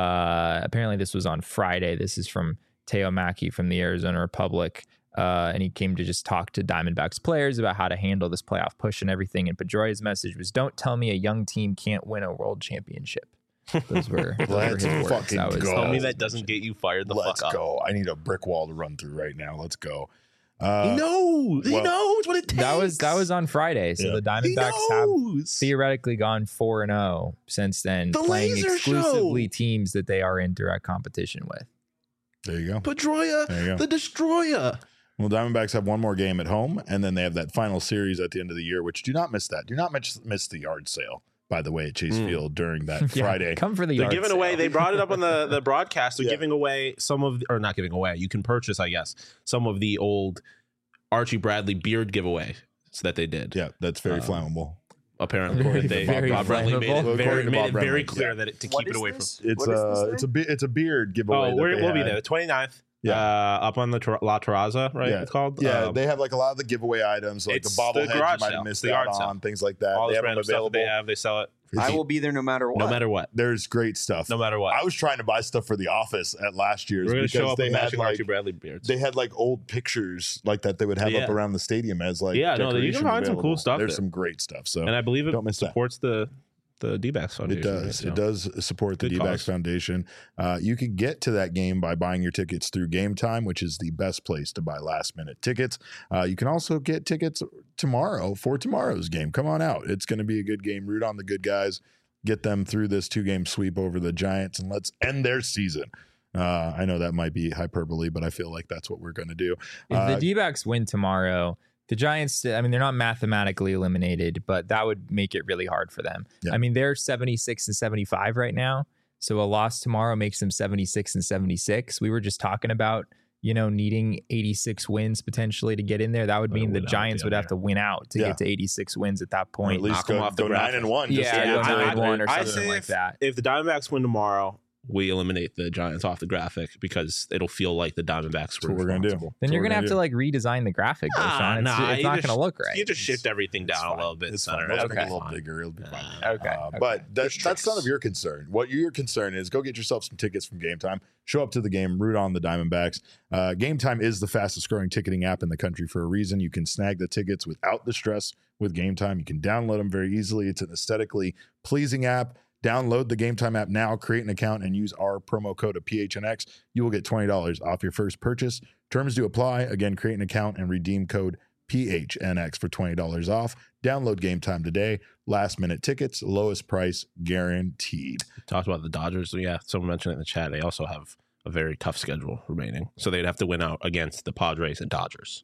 Uh, apparently this was on Friday. This is from Teo Mackey from the Arizona Republic. Uh, and he came to just talk to Diamondbacks players about how to handle this playoff push and everything. And Pedroia's message was, "Don't tell me a young team can't win a world championship." Those were, those were Let's his words. fucking That was, go. that Tell me was- that doesn't get you fired the Let's fuck up. go. I need a brick wall to run through right now. Let's go. Uh, He knows. He well, knows what it takes. that was that was on Friday. So Yeah. the He Diamondbacks have knows. theoretically gone four and zero since then, The playing laser exclusively show. teams that they are in direct competition with. There you go. Pedroia, There you go. the destroyer. Well, Diamondbacks have one more game at home, and then they have that final series at the end of the year, which do not miss that. Do not miss, miss the yard sale, by the way, at Chase Mm. Field during that Yeah, Friday. come for the They're yard giving sale. away. They brought it up on the the broadcast. They're Yeah. giving away some of, the, or not giving away. You can purchase, I guess, some of the old Archie Bradley beard giveaways that they did. Yeah, that's very Um, flamable. Apparently, Very, they very Bob Bradley made flammable. it very, According to made Bob it very Bradley, clear yeah. that it, to What keep it is away this? from. It's What is uh, this it's a thing? be- it's a beard giveaway. Oh, that we're, they we'll be had. there. The twenty-ninth. Yeah. Uh, up on the Tor- La Terraza, right? Yeah. It's called. Yeah, Um, they have like a lot of the giveaway items, like the it's the bobbleheads you garage might sale. have missed The out yard sale. on, things like that. all they this have them random stuff that available. they have. They sell it I will be there no matter what. no matter what. There's great stuff. No matter what. I was trying to buy stuff for the office at last year's We're gonna because show up they with had matching like Archie Bradley beards. they had like old pictures like that they would have Yeah. up around the stadium as like Yeah, no, you can decoration find some cool available. stuff There's there. some great stuff. So and I believe it Don't miss that. supports the the D-backs It Foundation. does. right? So- It does support the Good D-backs cause. Foundation. Uh, you can get to that game by buying your tickets through Game Time, which is the best place to buy last-minute tickets. Uh, you can also get tickets tomorrow for tomorrow's game. Come on out. It's going to be a good game. Root on the good guys. Get them through this two-game sweep over the Giants, and let's end their season. Uh, I know that might be hyperbole, but I feel like that's what we're going to do. If Uh, the D-backs win tomorrow, the Giants, I mean, they're not mathematically eliminated, but that would make it really hard for them. Yeah. I mean, they're seventy-six and seventy-five right now. So a loss tomorrow makes them seventy-six and seventy-six. We were just talking about, you know, needing eighty-six wins potentially to get in there. That would Well, mean the win out Giants down would have there. to win out to Yeah. get to eighty-six wins at that or at point. least knock 'em go, off the go nine graphic. and one. just Yeah, to go get to nine the- and one or I something say like if, that. If the Diamondbacks win tomorrow, we eliminate the Giants off the graphic because it'll feel like the Diamondbacks were what we're gonna do. responsible. Then That's you're what going to we're have to gonna like redesign the graphic, though, Nah, Sean. It's, nah, it's you not just- going to look right. You just shift everything It's down a fine. little bit. It's center. fine. Let's It'll make it be a little fine. bigger. It'll be fine. Uh, Okay. Uh, okay. But that, There's that's none tricks. of your concern. What your concern is, go get yourself some tickets from Game Time. Show up to the game, root on the Diamondbacks. Uh, Game Time is the fastest growing ticketing app in the country for a reason. You can snag the tickets without the stress with Game Time. You can download them very easily. It's an aesthetically pleasing app. Download the Game Time app now, create an account, and use our promo code of P H N X. You will get twenty dollars off your first purchase. Terms do apply. Again, create an account and redeem code P H N X for twenty dollars off. Download Game Time today. Last minute tickets, lowest price guaranteed. Talked about the Dodgers. Yeah, someone mentioned it in the chat. They also have a very tough schedule remaining, so they'd have to win out against the Padres and Dodgers.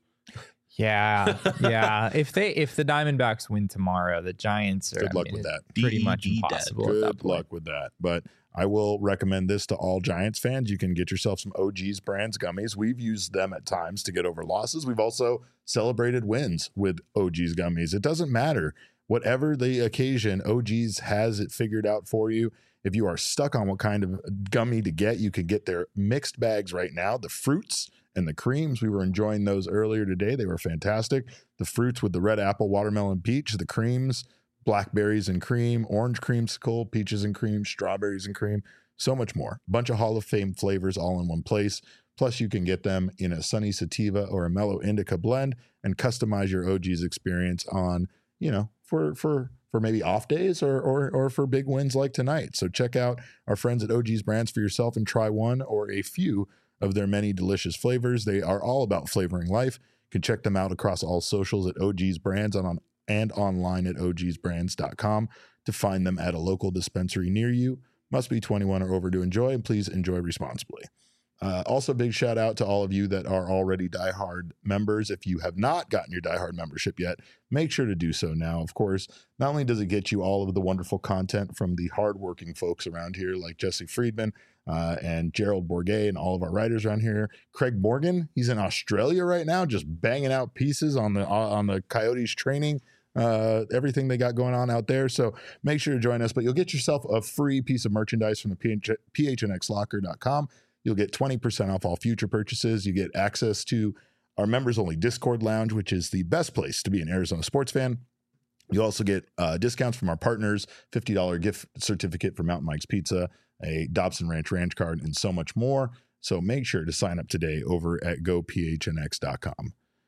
Yeah, yeah. If they if the Diamondbacks win tomorrow, the Giants are Good I luck mean, with it's that. pretty much D E D dead. impossible at that Good point. luck with that. But I will recommend this to all Giants fans. You can get yourself some O G's Brands gummies. We've used them at times to get over losses. We've also celebrated wins with O G's gummies. It doesn't matter. Whatever the occasion, O G's has it figured out for you. If you are stuck on what kind of gummy to get, you can get their mixed bags right now. The fruits and the creams, we were enjoying those earlier today. They were fantastic. The fruits with the red apple, watermelon, peach, the creams, blackberries and cream, orange creamsicle, peaches and cream, strawberries and cream, so much more. Bunch of Hall of Fame flavors all in one place. Plus, you can get them in a sunny sativa or a mellow indica blend and customize your O G's experience on, you know, for for for maybe off days or or or for big wins like tonight. So check out our friends at O G's Brands for yourself and try one or a few of their many delicious flavors. They are all about flavoring life. You can check them out across all socials at O G's Brands on, on and online at o g's brands dot com to find them at a local dispensary near you. Must be twenty-one or over to enjoy, and please enjoy responsibly. Uh, also, big shout out to all of you that are already diehard members. If you have not gotten your diehard membership yet, make sure to do so now. Of course, not only does it get you all of the wonderful content from the hardworking folks around here like Jesse Friedman uh, and Gerald Bourget and all of our writers around here. Craig Morgan, he's in Australia right now, just banging out pieces on the on the Coyotes training. Uh, everything they got going on out there. So make sure to join us. But you'll get yourself a free piece of merchandise from the P H N X locker dot com. You'll get twenty percent off all future purchases. You get access to our members-only Discord lounge, which is the best place to be an Arizona sports fan. You also get uh, discounts from our partners, fifty dollars gift certificate for Mountain Mike's Pizza, a Dobson Ranch Ranch card, and so much more. So make sure to sign up today over at go P H N X dot com.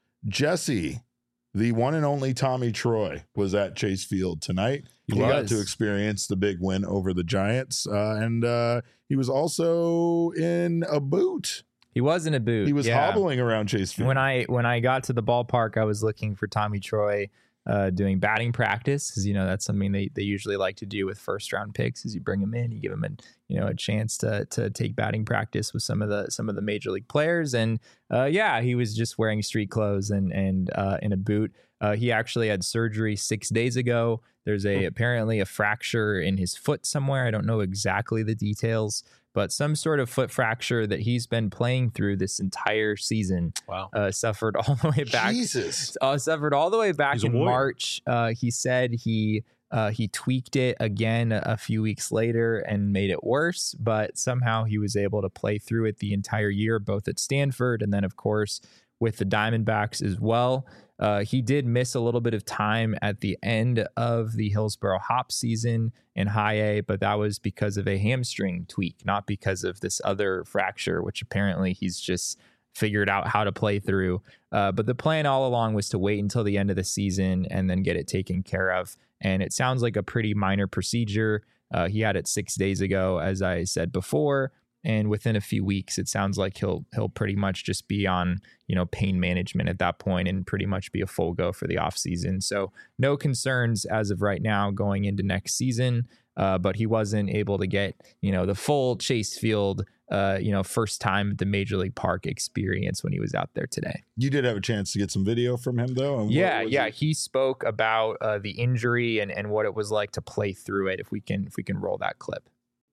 Jesse, the one and only Tommy Troy, was at Chase Field tonight. He, he got to experience the big win over the Giants, uh, and uh, he was also in a boot. He was in a boot. He was yeah. hobbling around Chase Field. When I when I got to the ballpark, I was looking for Tommy Troy uh, doing batting practice, because you know that's something they, they usually like to do with first round picks. Is you bring him in, you give him a you know a chance to to take batting practice with some of the some of the major league players, and uh, yeah, he was just wearing street clothes and and uh, in a boot. Uh, he actually had surgery six days ago. There's a apparently a fracture in his foot somewhere. I don't know exactly the details, but some sort of foot fracture that he's been playing through this entire season. Wow. Uh, suffered all the way back. Jesus. Uh, suffered all the way back He's in March. Uh, he said he uh, he tweaked it again a, a few weeks later and made it worse, but somehow he was able to play through it the entire year, both at Stanford and then, of course, with the Diamondbacks as well. Uh, he did miss a little bit of time at the end of the Hillsborough Hop season in high A, but that was because of a hamstring tweak, not because of this other fracture, which apparently he's just figured out how to play through. Uh, but the plan all along was to wait until the end of the season and then get it taken care of. And it sounds like a pretty minor procedure. Uh, he had it six days ago, as I said before. And within a few weeks, it sounds like he'll he'll pretty much just be on, you know, pain management at that point and pretty much be a full go for the offseason. So no concerns as of right now going into next season. Uh, but he wasn't able to get, you know, the full Chase Field, uh, you know, first time at the Major League Park experience when he was out there today. You did have a chance to get some video from him, though. And yeah, yeah. It? He spoke about uh, the injury and, and what it was like to play through it. If we can, if we can roll that clip.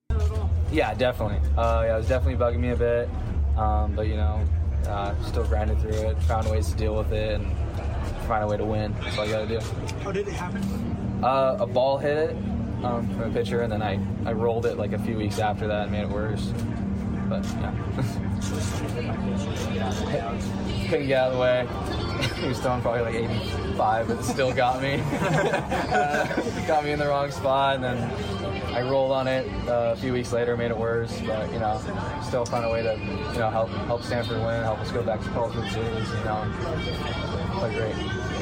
Yeah, definitely. Uh, yeah, it was definitely bugging me a bit, um, but you know, uh, still grinded through it. Found ways to deal with it and find a way to win. That's all you got to do. How did it happen? Uh, a ball hit it um, from a pitcher, and then I, I rolled it like a few weeks after that and made it worse. But yeah, couldn't get out of the way. He was throwing probably like eighty-five, but it still got me. uh, got me in the wrong spot, and then I rolled on it uh, a few weeks later, made it worse, but, you know, still found a way to, you know, help help Stanford win, help us go back to College World Series, you know, play great.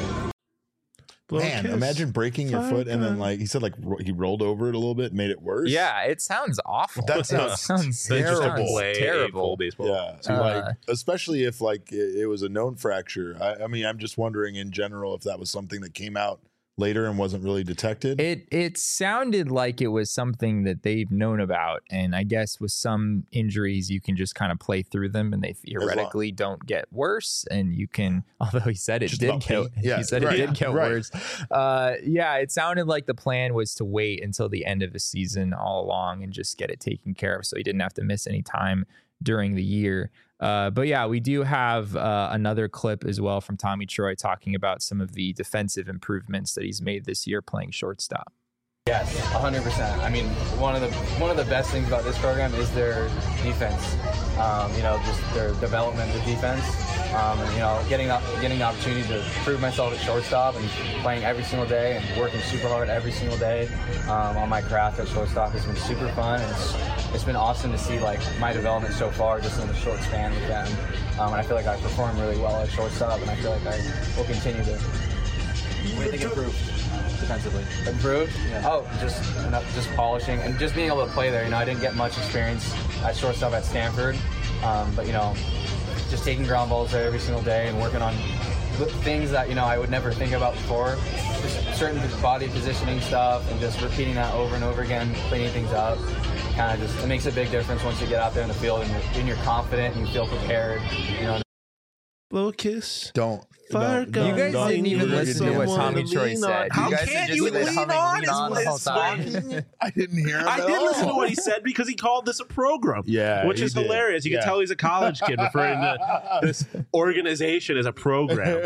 Man, imagine breaking your foot and then, like, he said, like, ro- he rolled over it a little bit, made it worse. Yeah, it sounds awful. That sounds, sounds terrible. Play terrible. baseball. Yeah, so Uh, like, especially if, like, it, it was a known fracture. I, I mean, I'm just wondering in general if that was something that came out later and wasn't really detected? It it sounded like it was something that they've known about, and I guess with some injuries you can just kind of play through them, and they theoretically don't get worse. And you can, although he said it Just did about get, pain. Yeah, he said right, it did get right. worse. Uh, yeah, it sounded like the plan was to wait until the end of the season all along and just get it taken care of, so he didn't have to miss any time during the year. Uh, but yeah, we do have uh, another clip as well from Tommy Troy talking about some of the defensive improvements that he's made this year playing shortstop. Yes, one hundred percent. I mean, one of the one of the best things about this program is their defense. Um, you know, just their development of defense. Um, and, you know, getting up, getting the opportunity to prove myself at shortstop and playing every single day and working super hard every single day um, on my craft at shortstop has been super fun. And it's, it's been awesome to see like my development so far just in a short span with them. Um, and I feel like I perform really well at shortstop, and I feel like I will continue to. What do you think improved defensively? Improved? Yeah. Oh, just just polishing and just being able to play there. You know, I didn't get much experience at shortstop at Stanford, um, but you know, just taking ground balls there every single day and working on things that you know I would never think about before. Just certain body positioning stuff and just repeating that over and over again, cleaning things up. Kind of just it makes a big difference once you get out there in the field and you're, and you're confident and you feel prepared. You know. Little kiss. Don't. Fire don't- gun. You guys don't- didn't even don't- listen to what don't- Tommy Someone Troy lean said. on. How You guys can are you just lean humming, on? lean on the It's- whole it's time. fine. I didn't hear him I at did listen to all. what he said because he called this a program. Yeah, which he is did. hilarious. You Yeah. can tell he's a college kid referring to this organization as a program.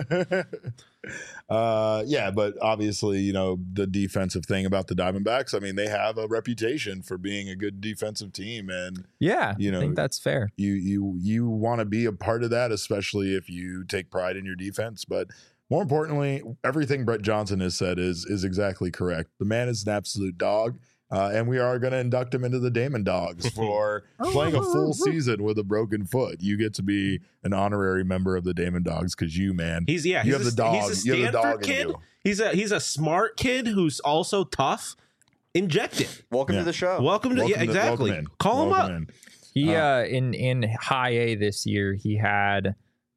uh, yeah, but obviously, you know, the defensive thing about the Diamondbacks, I mean, they have a reputation for being a good defensive team, and Yeah, You know, I think that's fair. you you you want to be a part of that, especially if you take pride in your defense. But more importantly, everything Brett Johnson has said is is exactly correct. The man is an absolute dog. Uh, and we are going to induct him into the Damon Dogs for playing a full season with a broken foot. You get to be an honorary member of the Damon Dogs because you, man, He's yeah. you He's have a, the dog. He's a You have the Stanford dog in kid. you. He's a he's a smart kid who's also tough. Inject it. Welcome Yeah. to the show. Welcome to Welcome yeah to- exactly. welcome in. Call him Welcome up. in. He Uh, uh, in in high A this year he had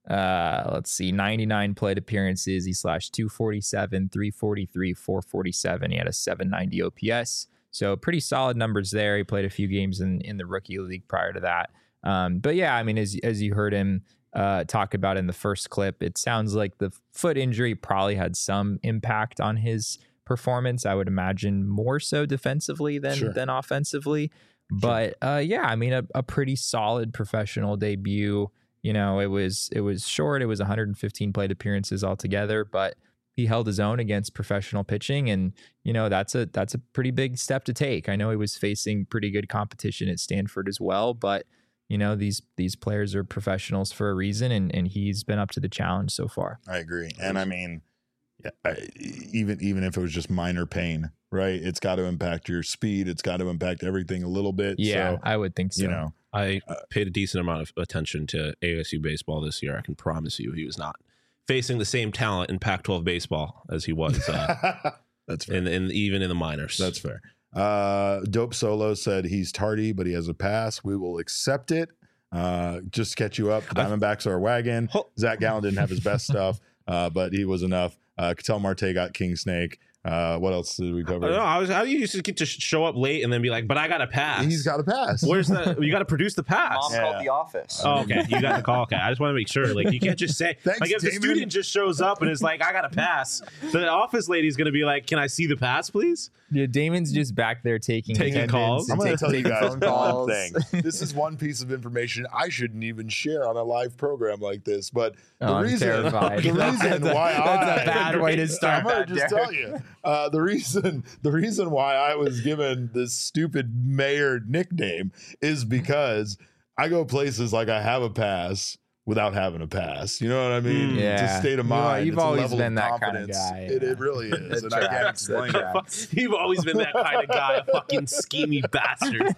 uh let's see ninety-nine plate appearances. He slashed two forty-seven, three forty-three, four forty-seven. He had a seven ninety O P S. So pretty solid numbers there. He played a few games in, in the rookie league prior to that. Um, but yeah, I mean, as as you heard him uh, talk about in the first clip, it sounds like the foot injury probably had some impact on his performance. I would imagine more so defensively than Sure. than offensively. But uh, yeah, I mean, a, a pretty solid professional debut. You know, it was it was short. It was one hundred fifteen plate appearances altogether, but he held his own against professional pitching, and you know that's a that's a pretty big step to take. I know he was facing pretty good competition at Stanford as well, but you know these these players are professionals for a reason, and and he's been up to the challenge so far. I agree, and I mean, yeah, I, even even if it was just minor pain, right? It's got to impact your speed. It's got to impact everything a little bit. Yeah, so, I would think so. you know, I paid a decent amount of attention to A S U baseball this year. I can promise you, he was not facing the same talent in Pac twelve baseball as he was uh, that's fair. in, in even in the minors. That's fair. Uh, Dope Solo said he's tardy, but he has a pass. We will accept it. Uh, just to catch you up, the Diamondbacks are a wagon. Ho- Zach Gallen didn't have his best stuff, uh, but he was enough. Uh, Cattell Marte got King Snake. Uh, what else did we I cover? don't know. I was how do you just get to sh- show up late and then be like, but I got a pass. He's got a pass. Where's the? You got to produce the pass. Mom Yeah. called the office. Oh, okay. You got the call. Okay. I just want to make sure. Like, you can't just say, Thanks, like, if the Damon. student just shows up and is like, I got a pass, the office lady's going to be like, can I see the pass, please? Yeah, Damon's just back there taking Taking attendance calls. and I'm going to take- tell you taking guys phone one calls. thing. This is one piece of information I shouldn't even share on a live program like this. But the Oh, I'm reason, terrified. the That's reason a- why that's I a bad way to start I'm going that, to just Derek. tell you uh, the reason. The reason why I was given this stupid mayor nickname is because I go places like I have a pass without having a pass. You know what I mean? Yeah. It's a state of You know, mind. you've It's a always level been of that kind of confidence. guy, It, yeah. it really is. It and I can't tracks, it explain it. tracks. You've always been that kind of guy, a fucking schemy bastard.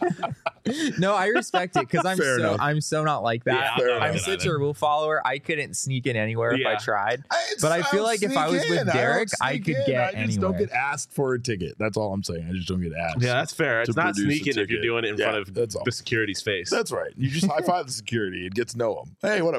No, I respect it because I'm Fair so enough. I'm so not like that. Yeah, I'm not I'm like such that. a rule follower. I couldn't sneak in anywhere Yeah. if I tried. It's- But I feel don't like if I sneak was with in. I don't Derek, I sneak could in. get I just don't anywhere. get asked for a ticket. That's all I'm saying. I just don't get asked. Yeah, that's fair. It's To not produce a sneaking if you're ticket. doing it in Yeah, front of that's all. the security's face. That's right. You just high five the security and get to know them. Hey, what up,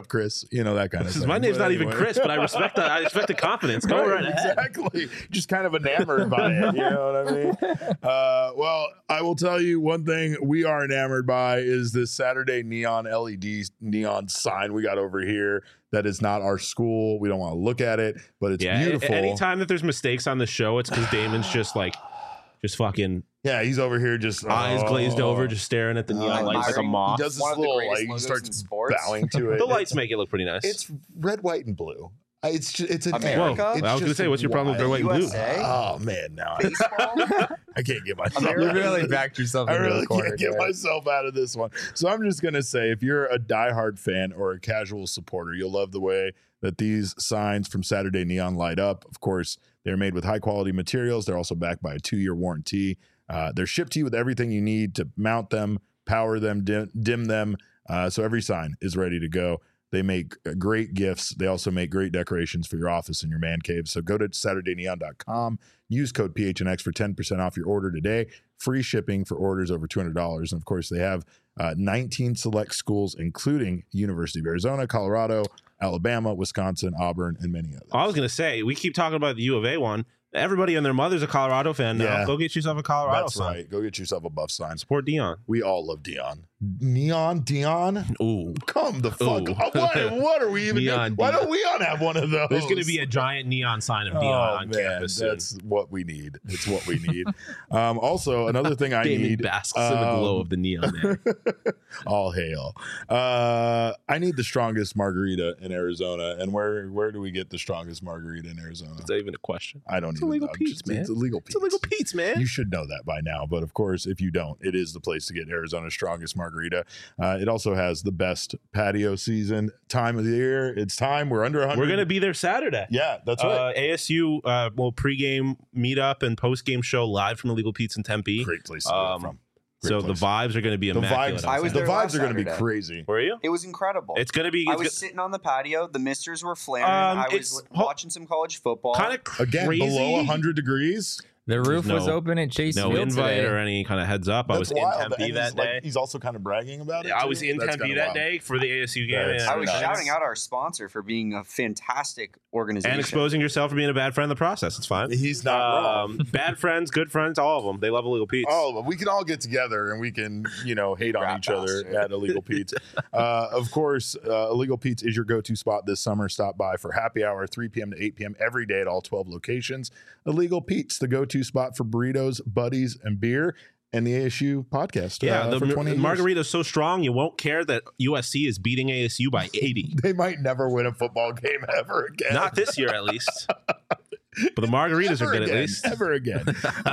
up, Chris? You know, that kind of thing. My name's But not even anyway. Chris, but I respect that. I respect the confidence. Go right, Right, ahead. exactly. Just kind of enamored by it. You know what I mean? Uh, well, I will tell you one thing we are enamored by is this Saturday neon L E D neon sign we got over here. That is not our school. We don't want to look at it, but it's Yeah. a- beautiful. Anytime that there's mistakes on the show, it's because Damon's just like, just fucking Yeah, he's over here just eyes glazed oh. over, just staring at the neon Uh, lights like a admiring- moth. He does this One of the little greatest like he logos starts in sports. bowing to it. The It's- lights make it look pretty nice. It's red, white, and blue. Uh, It's just, it's a America? Whoa. It's I was gonna just say, what's your problem with red, white, and blue? U S A? Oh man, now I, Baseball? I can't get myself. America? You really backed yourself I into really the corner. can't get there. myself out of this one. So I'm just gonna say, if you're a diehard fan or a casual supporter, you'll love the way that these signs from Saturday Neon light up. Of course, they're made with high quality materials. They're also backed by a two year warranty. Uh, they're shipped to you with everything you need to mount them, power them, dim, dim them. Uh, so every sign is ready to go. They make great gifts. They also make great decorations for your office and your man cave. So go to Saturday Neon dot com. Use code P H N X for ten percent off your order today. Free shipping for orders over two hundred dollars. And of course, they have uh, nineteen select schools, including University of Arizona, Colorado, Alabama, Wisconsin, Auburn, and many others. I was gonna say, we keep talking about the U of A one. Everybody and their mother's a Colorado fan now. Yeah. Go get yourself a Colorado That's sign. right. Go get yourself a buff sign. Support Dion. We all love Dion. Neon, Dion, Ooh. come the fuck Ooh. up. What, what are we even Neon doing? Why Dion. don't we on have one of those? There's gonna be a giant neon sign of Dion Oh, on man, campus soon. that's what we need. It's what we need. um, also, another thing I Damon need. basks in the glow um, of the neon there. all hail. Uh, I need the strongest margarita in Arizona. And where where do we get the strongest margarita in Arizona? Is that even a question? I don't It's even illegal know. Pete's, Just- man. It's illegal Pete's. It's illegal Pete's, man. You should know that by now. But of course, if you don't, it is the place to get Arizona's strongest margarita. Uh, it also has the best patio season time of the year. It's time. We're under one hundred. We're gonna be there Saturday. Yeah, that's right. Uh, A S U uh, will pregame meetup and postgame show live from Illegal Pete's in Tempe. Great place to go Um, from. Great So place. the vibes are going to be The immaculate. vibes, on I was the there Saturday. vibes last are going to be Saturday. crazy. Were you? It was incredible. It's going to be. I It's was go- sitting on the patio. The misters were flaring. Um, I it's- was ho- watching some college football. kind of Again, crazy. below one hundred degrees. The roof There's was no- open at Chase No Field invite today. or any kind of heads up. I That's was in wild. Tempe And that he's, like, day. he's also kind of bragging about it. I too. was in That's Tempe kinda that wild. day for the A S U game. That's and- I was nice. shouting out our sponsor for being a fantastic organization. and exposing yourself for being a bad friend in the process. It's fine. He's not wrong. Um, bad friends, good friends, all of them. They love Illegal Pete's. Oh, but we can all get together and we can, you know, hate on Rat each other bastard. at Illegal Pete's. Uh, of course, uh, Illegal Pete's is your go-to spot this summer. Stop by for happy hour, three p.m. to eight p.m. every day at all twelve locations. Illegal Pete's, the go-to spot for burritos, buddies, and beer. And the A S U podcast. yeah, uh, the for mar- twenty years. margarita's so strong you won't care that U S C is beating A S U by eighty. They might never win a football game ever again. Not this year, at least. But the margaritas Ever are good again, at least. Ever again.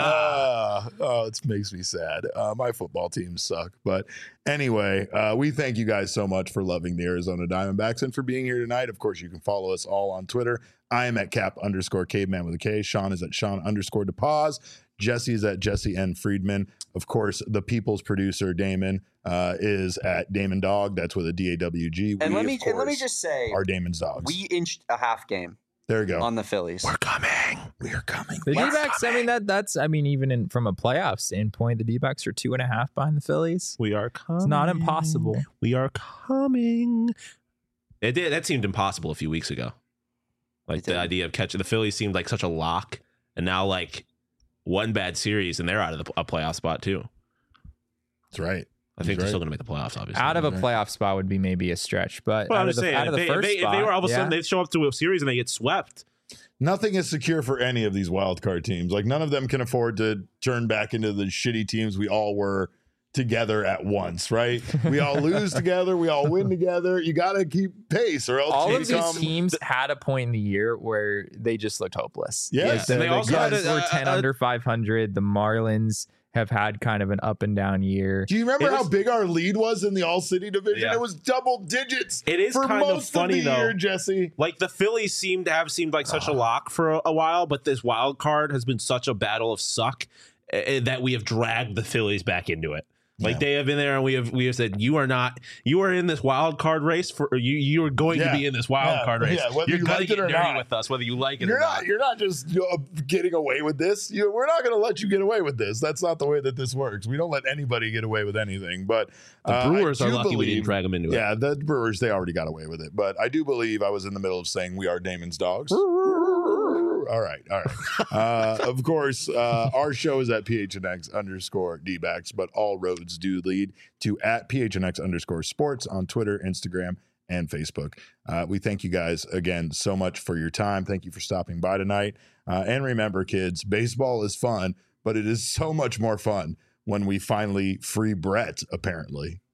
uh, oh, it makes me sad. Uh, my football teams suck. But anyway, uh, we thank you guys so much for loving the Arizona Diamondbacks and for being here tonight. Of course, you can follow us all on Twitter. I am at cap underscore caveman with a K. Sean is at Sean underscore DePaz. Jesse is at Jesse N. Friedman. Of course, the people's producer, Damon, uh, is at Damon Dog. That's with a D A W G. and We, let me of and let me course, just say, are Damon's dogs. we inched a half game there you go. on the Phillies. We're coming. We are coming. The We're D-backs, I coming. mean, that that's, I mean, even in, from a playoff standpoint, the D-backs are two and a half behind the Phillies. We are coming. It's not impossible. We are coming. It did. That seemed impossible a few weeks ago. Like It the did. idea of catching the Phillies seemed like such a lock, and now like one bad series and they're out of the, a playoff spot too. That's right. I think He's they're right. still going to make the playoffs, obviously. Out of a Right. playoff spot would be maybe a stretch, but Well, out I'm of just the, saying, out of if the they, if first they, if spot, they were all of a sudden yeah. they show up to a series and they get swept. Nothing is secure for any of these wild card teams. Like none of them can afford to turn back into the shitty teams we all were together at once, right? We all lose together, we all win together. You got to keep pace, or else all you of these become. teams had a point in the year where they just looked hopeless. Yes. Like, the, And they the also had Cubs a- were a- ten a- under five hundred. The Marlins have had kind of an up and down year. Do you remember It how was- big our lead was in the All City division? Yeah. It was double digits. It is for kind of most funny, of the though. year, Jesse. Like the Phillies seem to have seemed like such Ah. a lock for a, a while, but this wild card has been such a battle of suck uh, that we have dragged the Phillies back into it. Like Yeah. they have been there, and we have we have said you are not. You are in this wild card race for or you. You are going Yeah. to be in this wild Yeah. card race. Yeah, whether You're you gonna like get it or dirty not. with us, whether you like it You're or not. not. You're not just you know, getting away with this. You, we're not going to let you get away with this. That's not the way that this works. We don't let anybody get away with anything. But The uh, Brewers I are do lucky we believe- didn't drag them into it. Yeah, the Brewers, they already got away with it. But I do believe I was in the middle of saying we are Damon's dogs. All right, all right. Uh, of course, uh, our show is at P H N X underscore D-backs, but all roads do lead to at P H N X underscore sports on Twitter, Instagram, and Facebook. Uh, we thank you guys again so much for your time. Thank you for stopping by tonight. Uh, and remember, kids, baseball is fun, but it is so much more fun when we finally free Brett, apparently.